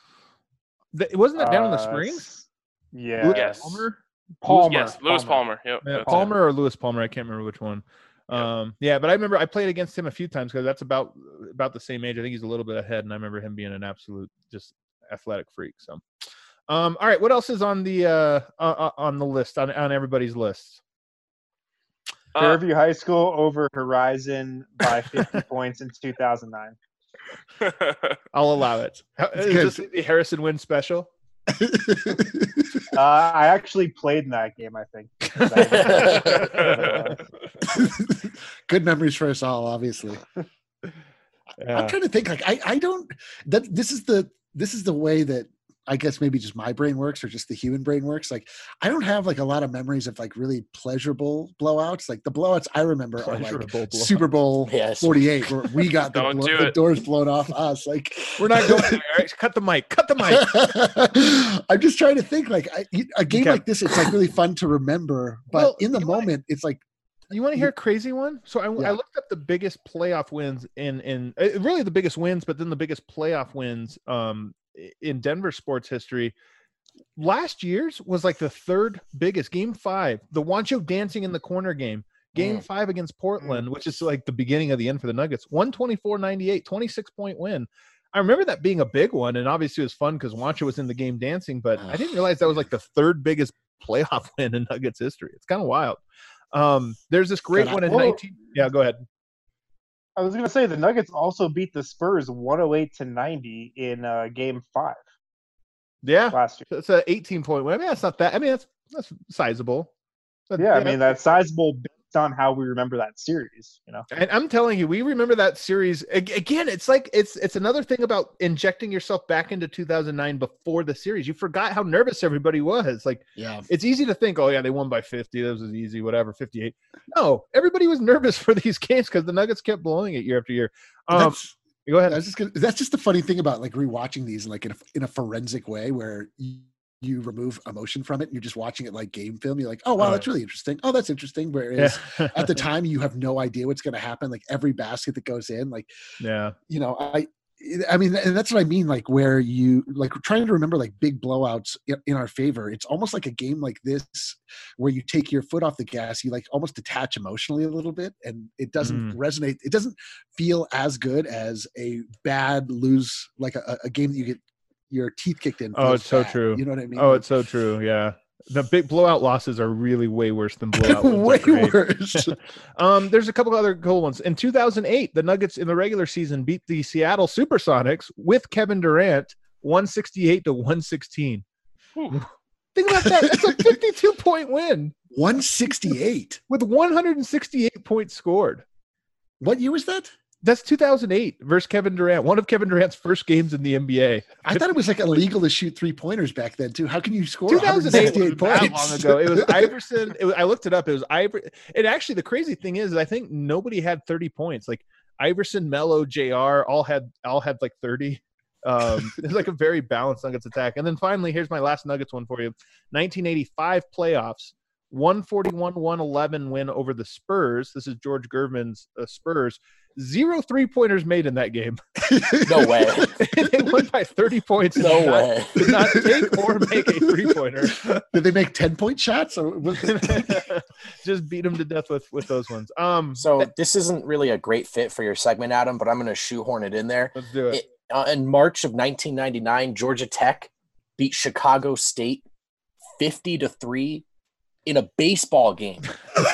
Wasn't that down in the Springs? Yeah. Yes. Palmer. Yes, Lewis Palmer. Yep. Yeah, Palmer or Lewis Palmer. I can't remember which one. Yeah, but I remember I played against him a few times because that's about the same age. I think he's a little bit ahead, and I remember him being an absolute just athletic freak. So, all right, what else is on the list on everybody's list? Fairview High School over Horizon by 50 points in 2009. I'll allow it. Is this the Harrison Wynn special? I actually played in that game, I think. Good memories for us all, obviously. Yeah. I'm trying to think, like, I don't that this is the way that I guess maybe just my brain works or just the human brain works. Like, I don't have like a lot of memories of like really pleasurable blowouts. Like the blowouts I remember are like Super Bowl 48 where we got the doors blown off us. Like, we're not going there. Cut the mic. I'm just trying to think like a game like this. It's like really fun to remember, but in the moment it's like, you want to hear a crazy one? So I looked up the biggest playoff wins in really the biggest wins, but then the biggest playoff wins in Denver sports history. Last year's was like the third biggest. Game 5, the Wancho dancing in the corner game. Game 5 against Portland, which is like the beginning of the end for the Nuggets. 124-98, 26-point win. I remember that being a big one, and obviously it was fun because Wancho was in the game dancing, but I didn't realize that was like the third biggest playoff win in Nuggets history. It's kind of wild. There's this great one in 19. Yeah, go ahead. I was going to say the Nuggets also beat the Spurs 108-90 in Game 5. Yeah, last year. It's an 18-point win. I mean, that's not that. I mean, that's sizable. But, yeah, I mean, that's sizable based on how we remember that series, you know. And I'm telling you, we remember that series again. It's like it's another thing about injecting yourself back into 2009 before the series. You forgot how nervous everybody was. Like, yeah, it's easy to think, oh yeah, they won by 50. That was easy, whatever, 58. No, everybody was nervous for these games because the Nuggets kept blowing it year after year. Go ahead. That's just the funny thing about like rewatching these like in a forensic way where you remove emotion from it and you're just watching it like game film. You're like, oh wow, that's really interesting. Oh, that's interesting. Whereas at the time you have no idea what's going to happen. Like every basket that goes in, like, you know, I mean, and that's what I mean. Like where you like trying to remember like big blowouts in our favor. It's almost like a game like this where you take your foot off the gas. You like almost detach emotionally a little bit, and it doesn't resonate. It doesn't feel as good as a bad lose, like a game that you get your teeth kicked in. Oh, it's so true. You know what I mean? Oh, it's so true. Yeah. The big blowout losses are really way worse than blowout wins. Way worse. There's a couple other cool ones. In 2008, the Nuggets in the regular season beat the Seattle Supersonics with Kevin Durant 168-116. Think about that. That's a 52-point win. 168 with 168 points scored. What year was that? That's 2008 versus Kevin Durant. One of Kevin Durant's first games in the NBA. I thought it was like illegal to shoot 3-pointers back then too. How can you score 2008 points? That long ago. It was Iverson. I looked it up. It was Iverson. And actually, the crazy thing is, I think nobody had 30 points. Like Iverson, Melo, JR all had like 30. It's like a very balanced Nuggets attack. And then finally, here's my last Nuggets one for you. 1985 playoffs, 141-111 win over the Spurs. This is George Gervin's Spurs. 0 3-pointers made in that game. No way. They won by 30 points. No way. Did not take or make a 3-pointer. Did they make 10-point shots? Or Just beat them to death with those ones. So this isn't really a great fit for your segment, Adam, but I'm going to shoehorn it in there. Let's do it. In March of 1999, Georgia Tech beat Chicago State 50-3 in a baseball game.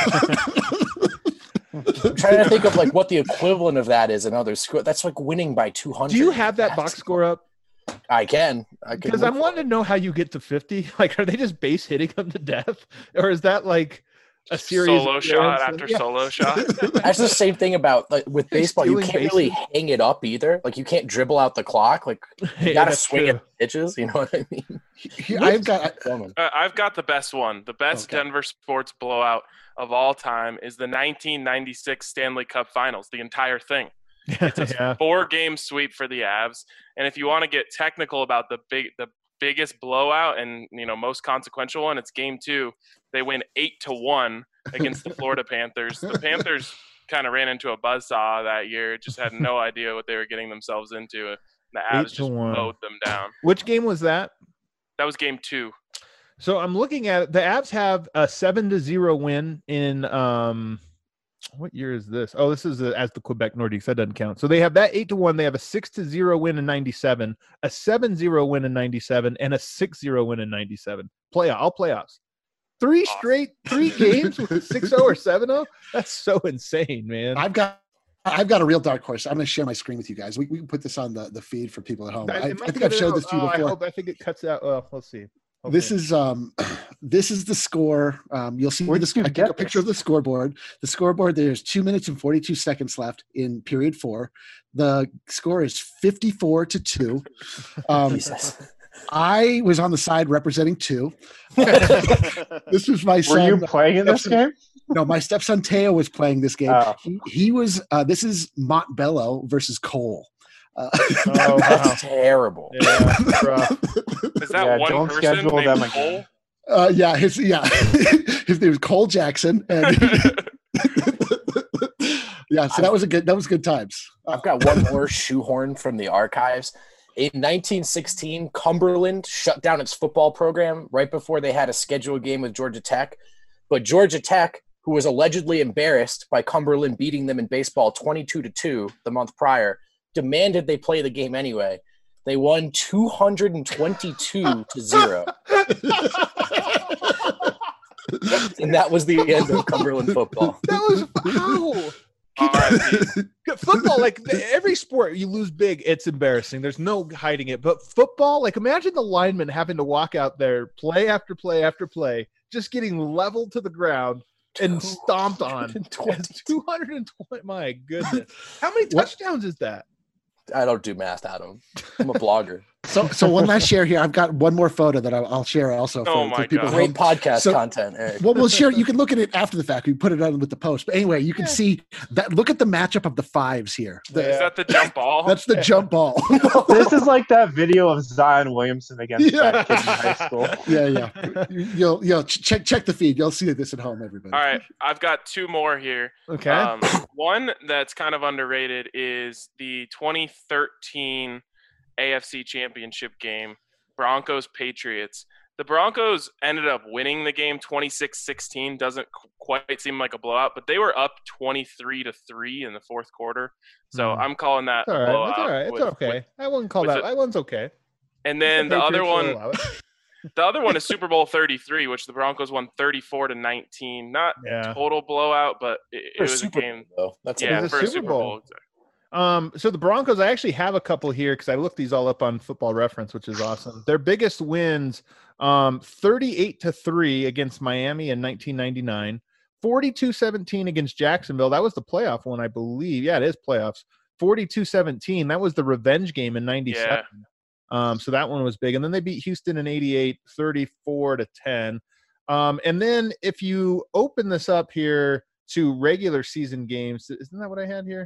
I'm trying to think of like what the equivalent of that is in other schools. That's like winning by 200. Do you have that box score up? I can. Because I'm wanting to know how you get to 50. Like, are they just base hitting them to death, or is that like a series solo shot after solo shot? That's the same thing about like with baseball. You can't really hang it up either. Like you can't dribble out the clock. Like you got to swing at pitches. You know what I mean? I've got the best one. The best Denver sports blowout of all time is the 1996 Stanley Cup Finals. The entire thing. It's a 4-game sweep for the Avs. And if you want to get technical about the biggest blowout and most consequential one, it's Game 2. They win 8-1 against the Florida Panthers. The Panthers kind of ran into a buzzsaw that year, just had no idea what they were getting themselves into. The Avs just mowed them down. Which game was that? That was Game 2. So I'm looking at it. The Avs have a 7-0 win in what year is this? Oh, this is as the Quebec Nordiques. That doesn't count. So they have that 8-1. They have a 6-0 win in 97, a 7-0 win in 97, and a 6-0 win in 97. All playoffs. 3 games with 6-0 or 7-0. That's so insane, man. I've got a real dark horse. I'm going to share my screen with you guys. We can put this on the feed for people at home. I think I've showed this to you before. I think it cuts out. Well, let's see. Okay. This is the score. You'll see I took a picture of the scoreboard. The scoreboard, there's 2 minutes and 42 seconds left in period 4. The score is 54-2. I was on the side representing 2. This was my son. Were you playing in this game? No, my stepson Teo was playing this game. Oh. He was. This is Montbello versus Cole. That's terrible. Yeah, is that one don't person schedule named them Cole? His name was Cole Jackson. And so that was good times. I've got one more shoehorn from the archives. In 1916, Cumberland shut down its football program right before they had a scheduled game with Georgia Tech. But Georgia Tech, who was allegedly embarrassed by Cumberland beating them in baseball 22-2 the month prior, demanded they play the game anyway. They won 222-0. And that was the end of Cumberland football. That was how. Football, like every sport, you lose big, it's embarrassing. There's no hiding it. But football, like imagine the linemen having to walk out there, play after play after play, just getting leveled to the ground and stomped on. 220. My goodness. How many touchdowns is that? I don't do math, Adam. I'm a blogger. So one last share here. I've got one more photo that I'll share also for people. Great podcast content, Eric. Well, we'll share. You can look at it after the fact. We put it on with the post. But anyway, you can see that. Look at the matchup of the 5s here. Is that the jump ball? That's the jump ball. This is like that video of Zion Williamson against that kid in high school. Yeah. You'll check the feed. You'll see this at home, everybody. All right, I've got 2 more here. Okay. One that's kind of underrated is the 2013 AFC Championship game, Broncos-Patriots. The Broncos ended up winning the game 26-16. Doesn't quite seem like a blowout, but they were up 23-3 in the fourth quarter. So I'm calling that a blowout. That's all right. It's okay. I wouldn't call that. That one's okay. And then the other one is Super Bowl 33, which the Broncos won 34-19. Not total blowout, but it was a game. That's for a Super Bowl. Exactly. So the Broncos, I actually have a couple here because I looked these all up on Football Reference, which is awesome. Their biggest wins, 38-3 against Miami in 1999, 42-17 against Jacksonville. That was the playoff one, I believe. Yeah, it is playoffs. 42-17. That was the revenge game in 97. So that one was big. And then they beat Houston in 88, 34-10. And then if you open this up here to regular season games, isn't that what I had here?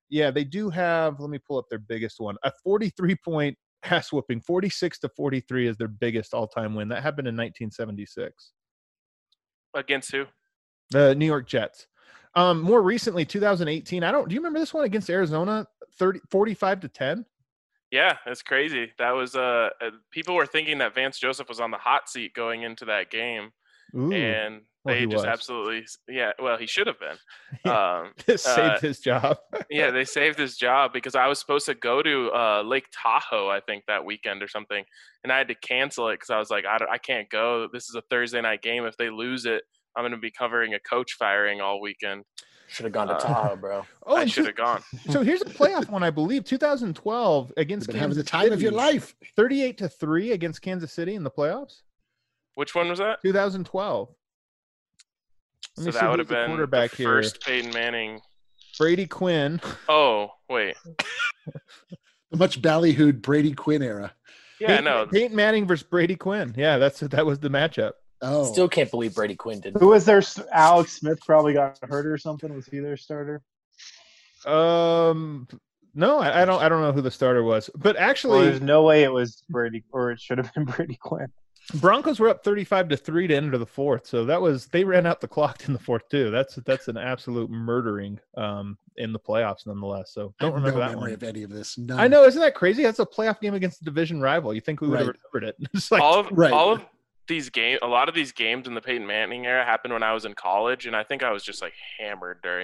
Yeah, they do have. Let me pull up their biggest one. A 43-point ass whooping, 46-43 is their biggest all-time win. That happened in 1976. Against who? The New York Jets. More recently, 2018. Do you remember this one against Arizona? 45-10. Yeah, it's crazy. That was people were thinking that Vance Joseph was on the hot seat going into that game. Ooh. And they just absolutely, he should have been. Saved his job. Yeah, they saved his job because I was supposed to go to Lake Tahoe, I think, that weekend or something. And I had to cancel it because I was like, I can't go. This is a Thursday night game. If they lose it, I'm going to be covering a coach firing all weekend. Should have gone to Tahoe, bro. I should have gone. So here's a playoff one, I believe, 2012 against Kansas having the time City. of your life. 38-3 against Kansas City in the playoffs. Which one was that? 2012. So that would have been quarterback the first Peyton Manning. Brady Quinn. Oh, wait. The much ballyhooed Brady Quinn era. Yeah, no. Peyton Manning versus Brady Quinn. Yeah, that was the matchup. Oh, still can't believe Brady Quinn didn't. Who was their Alex Smith? Probably got hurt or something. Was he their starter? No, I don't know who the starter was, but actually, there's no way it was Brady, or it should have been Brady Quinn. Broncos were up 35-3 to enter the fourth, so they ran out the clock in the fourth too. That's an absolute murdering in the playoffs, nonetheless. So don't remember that one. Of any of this. None. I know, isn't that crazy? That's a playoff game against a division rival. You think we would have remembered it? It's like all of these games, a lot of these games in the Peyton Manning era happened when I was in college, and I think I was just like hammered during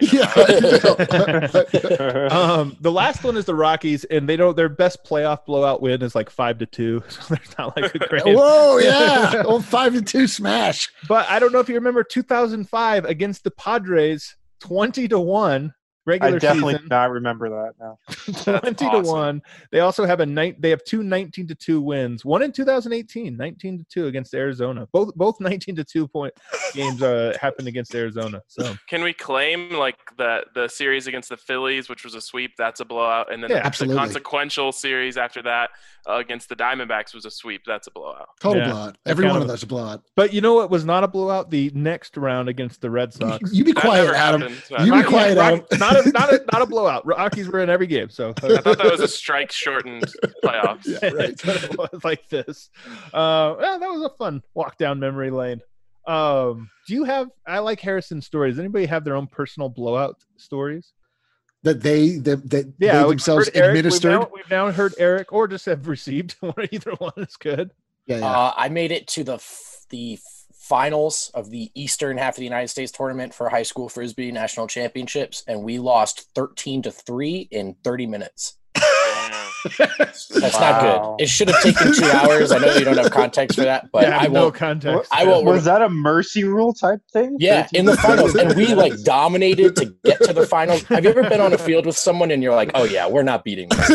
the last one is the Rockies, and their best playoff blowout win is like 5-2. So there's not like a great Whoa, yeah. Old 5-2 smash. But I don't know if you remember 2005 against the Padres, 20-1. Regular I definitely season. do not remember that now. 20-1. They also have they have two 19-2 wins. One in 2018, 19-2 against Arizona. Both 19-2 point games happened against Arizona. So can we claim like the series against the Phillies, which was a sweep, that's a blowout, and then the consequential series after that against the Diamondbacks was a sweep, that's a blowout. Total blowout. Every one of those a blowout. But you know what was not a blowout? The next round against the Red Sox. You be quiet, Adam. You be quiet, Adam. Not a blowout. Rockies were in every game. So I thought that was a strike shortened playoffs. Yeah, right. It was like this. That was a fun walk down memory lane. Do you have? I like Harrison's stories. Does anybody have their own personal blowout stories? That they themselves administered. We've now heard Eric, or just have received. Either one is good. Yeah. I made it to the finals of the Eastern half of the United States tournament for high school Frisbee national championships, and we lost 13-3 in 30 minutes. That's not good. It should have taken 2 hours. I know you don't have context for that, but I won't. Context. I won't. Was that a mercy rule type thing? Yeah, in the finals, and we like dominated to get to the finals. Have you ever been on a field with someone and you're like, "Oh yeah, we're not beating this"?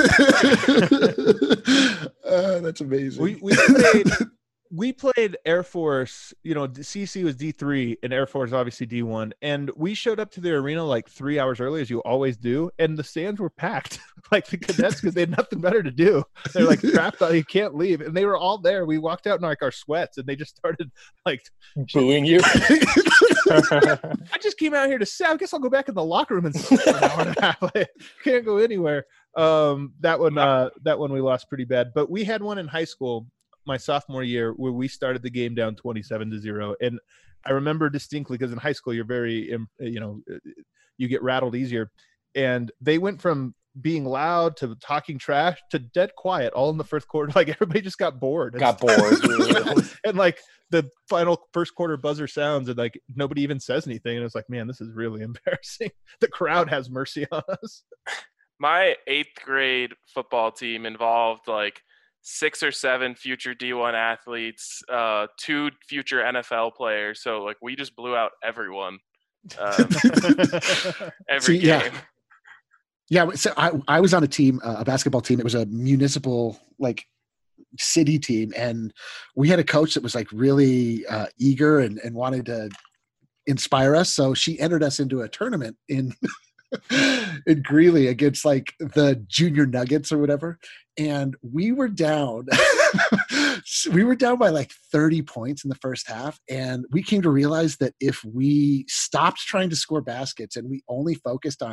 That's amazing. We played Air Force, CC was D3 and Air Force obviously D1. And we showed up to the arena like 3 hours early, as you always do. And the stands were packed, like the cadets, because they had nothing better to do. They're like trapped out, you can't leave. And they were all there. We walked out in like our sweats and they just started like booing you. I just came out here to say, I guess I'll go back in the locker room and sit for an hour and a half. I can't go anywhere. That one we lost pretty bad. But we had one in high school my sophomore year where we started the game down 27-0, and I remember distinctly because in high school you're very you get rattled easier, and they went from being loud to talking trash to dead quiet all in the first quarter. Like everybody just got bored and like the final first quarter buzzer sounds and like nobody even says anything, and it's like, man, this is really embarrassing. The crowd has mercy on us. My 8th grade football team involved like 6 or 7 future D1 athletes, 2 future NFL players. So like we just blew out everyone. Every game. Yeah. So I was on a team, a basketball team. It was a municipal like city team, and we had a coach that was like really eager and wanted to inspire us. So she entered us into a tournament in Greeley against like the Junior Nuggets or whatever. And we were down. We were down by like 30 points in the first half. And we came to realize that if we stopped trying to score baskets and we only focused on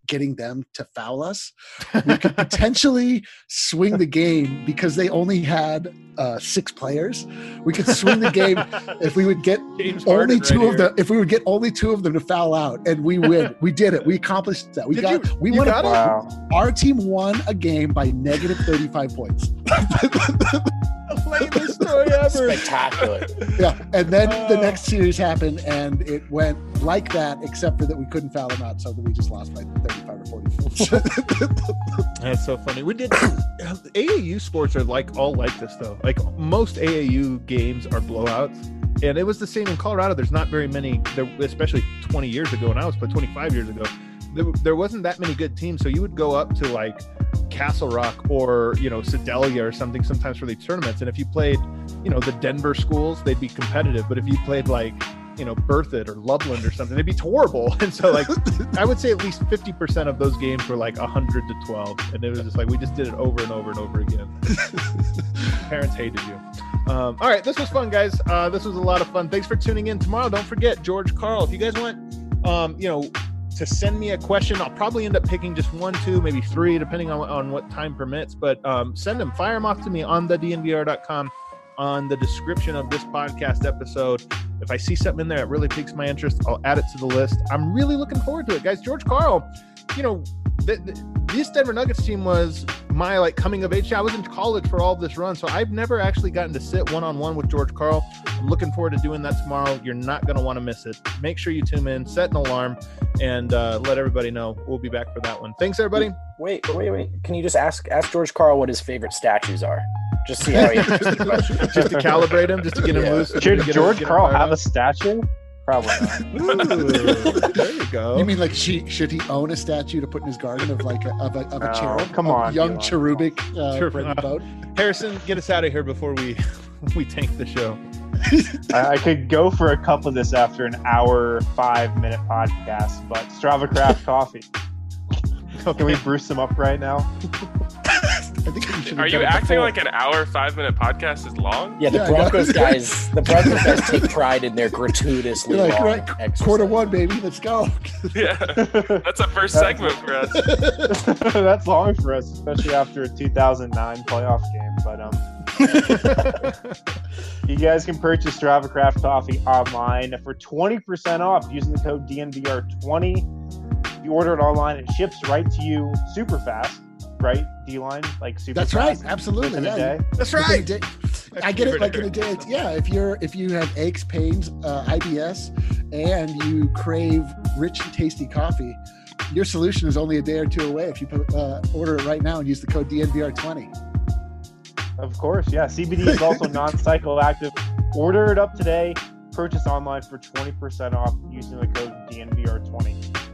getting them to foul us, we could potentially swing the game because they only had 6 players. We could swing the game if we would get only two of them. If we would get only 2 of them to foul out, and we win. We did it. We accomplished that. We won. Our team won a game by negative 35 points. Lamest story ever. Spectacular. Yeah, and then the next series happened, and it went like that, except for that we couldn't foul them out, so that we just lost by 35 or 40 points. That's so funny. We did. AAU sports are all like this though. Like most AAU games are blowouts, and it was the same in Colorado. There's not very many, especially 20 years ago when I was playing, 25 years ago. There wasn't that many good teams, so you would go up to like Castle Rock or Sedalia or something sometimes for these tournaments, and if you played the Denver schools, they'd be competitive, but if you played like Berthoud or Loveland or something, they'd be horrible. And so like I would say at least 50% of those games were like 100-12, and it was just like we just did it over and over and over again. Parents hated you. All right, this was fun, guys. This was a lot of fun. Thanks for tuning in. Tomorrow, don't forget George Karl. If you guys want to send me a question, I'll probably end up picking just 1, 2, maybe 3, depending on what time permits. But send them, fire them off to me on thednvr.com, on the description of this podcast episode. If I see something in there that really piques my interest, I'll add it to the list. I'm really looking forward to it, guys. George Karl, this Denver Nuggets team was my like coming of age. I was in college for all of this run, so I've never actually gotten to sit one-on-one with George Karl. I'm looking forward to doing that tomorrow. You're not going to want to miss it. Make sure you tune in, set an alarm, and let everybody know. We'll be back for that one. Thanks, everybody. Wait. Can you just ask George Karl what his favorite statues are? Just see how he answers the question. Just to calibrate him, just to get him loose. Should George Karl have a statue? Probably not. Ooh, there you go. You mean like should he own a statue to put in his garden of like a cherub? Come on, young cherubic boat. Harrison, get us out of here before we tank the show. I could go for a cup of this after an hour 5-minute podcast, but Strava Craft Coffee. Okay. Can we brew some up right now? I think Are you acting like an hour 5-minute podcast is long? Yeah, the Broncos guys take pride in their gratuitously long exercise. Q1, baby, let's go. Yeah, that's a first segment for us. That's long for us, especially after a 2009 playoff game. But you guys can purchase Strava Craft Coffee online for 20% off using the code DNVR20. If you order it online, it ships right to you super fast. Right, D-line, like super. That's fast, right, absolutely. In a day. That's right. I get it. Like in a day. Yeah, if you have aches, pains, IBS, and you crave rich and tasty coffee, your solution is only a day or 2 away. If you order it right now and use the code DNVR20. Of course, yeah. CBD is also non-psychoactive. Order it up today. Purchase online for 20% off using the code DNVR20.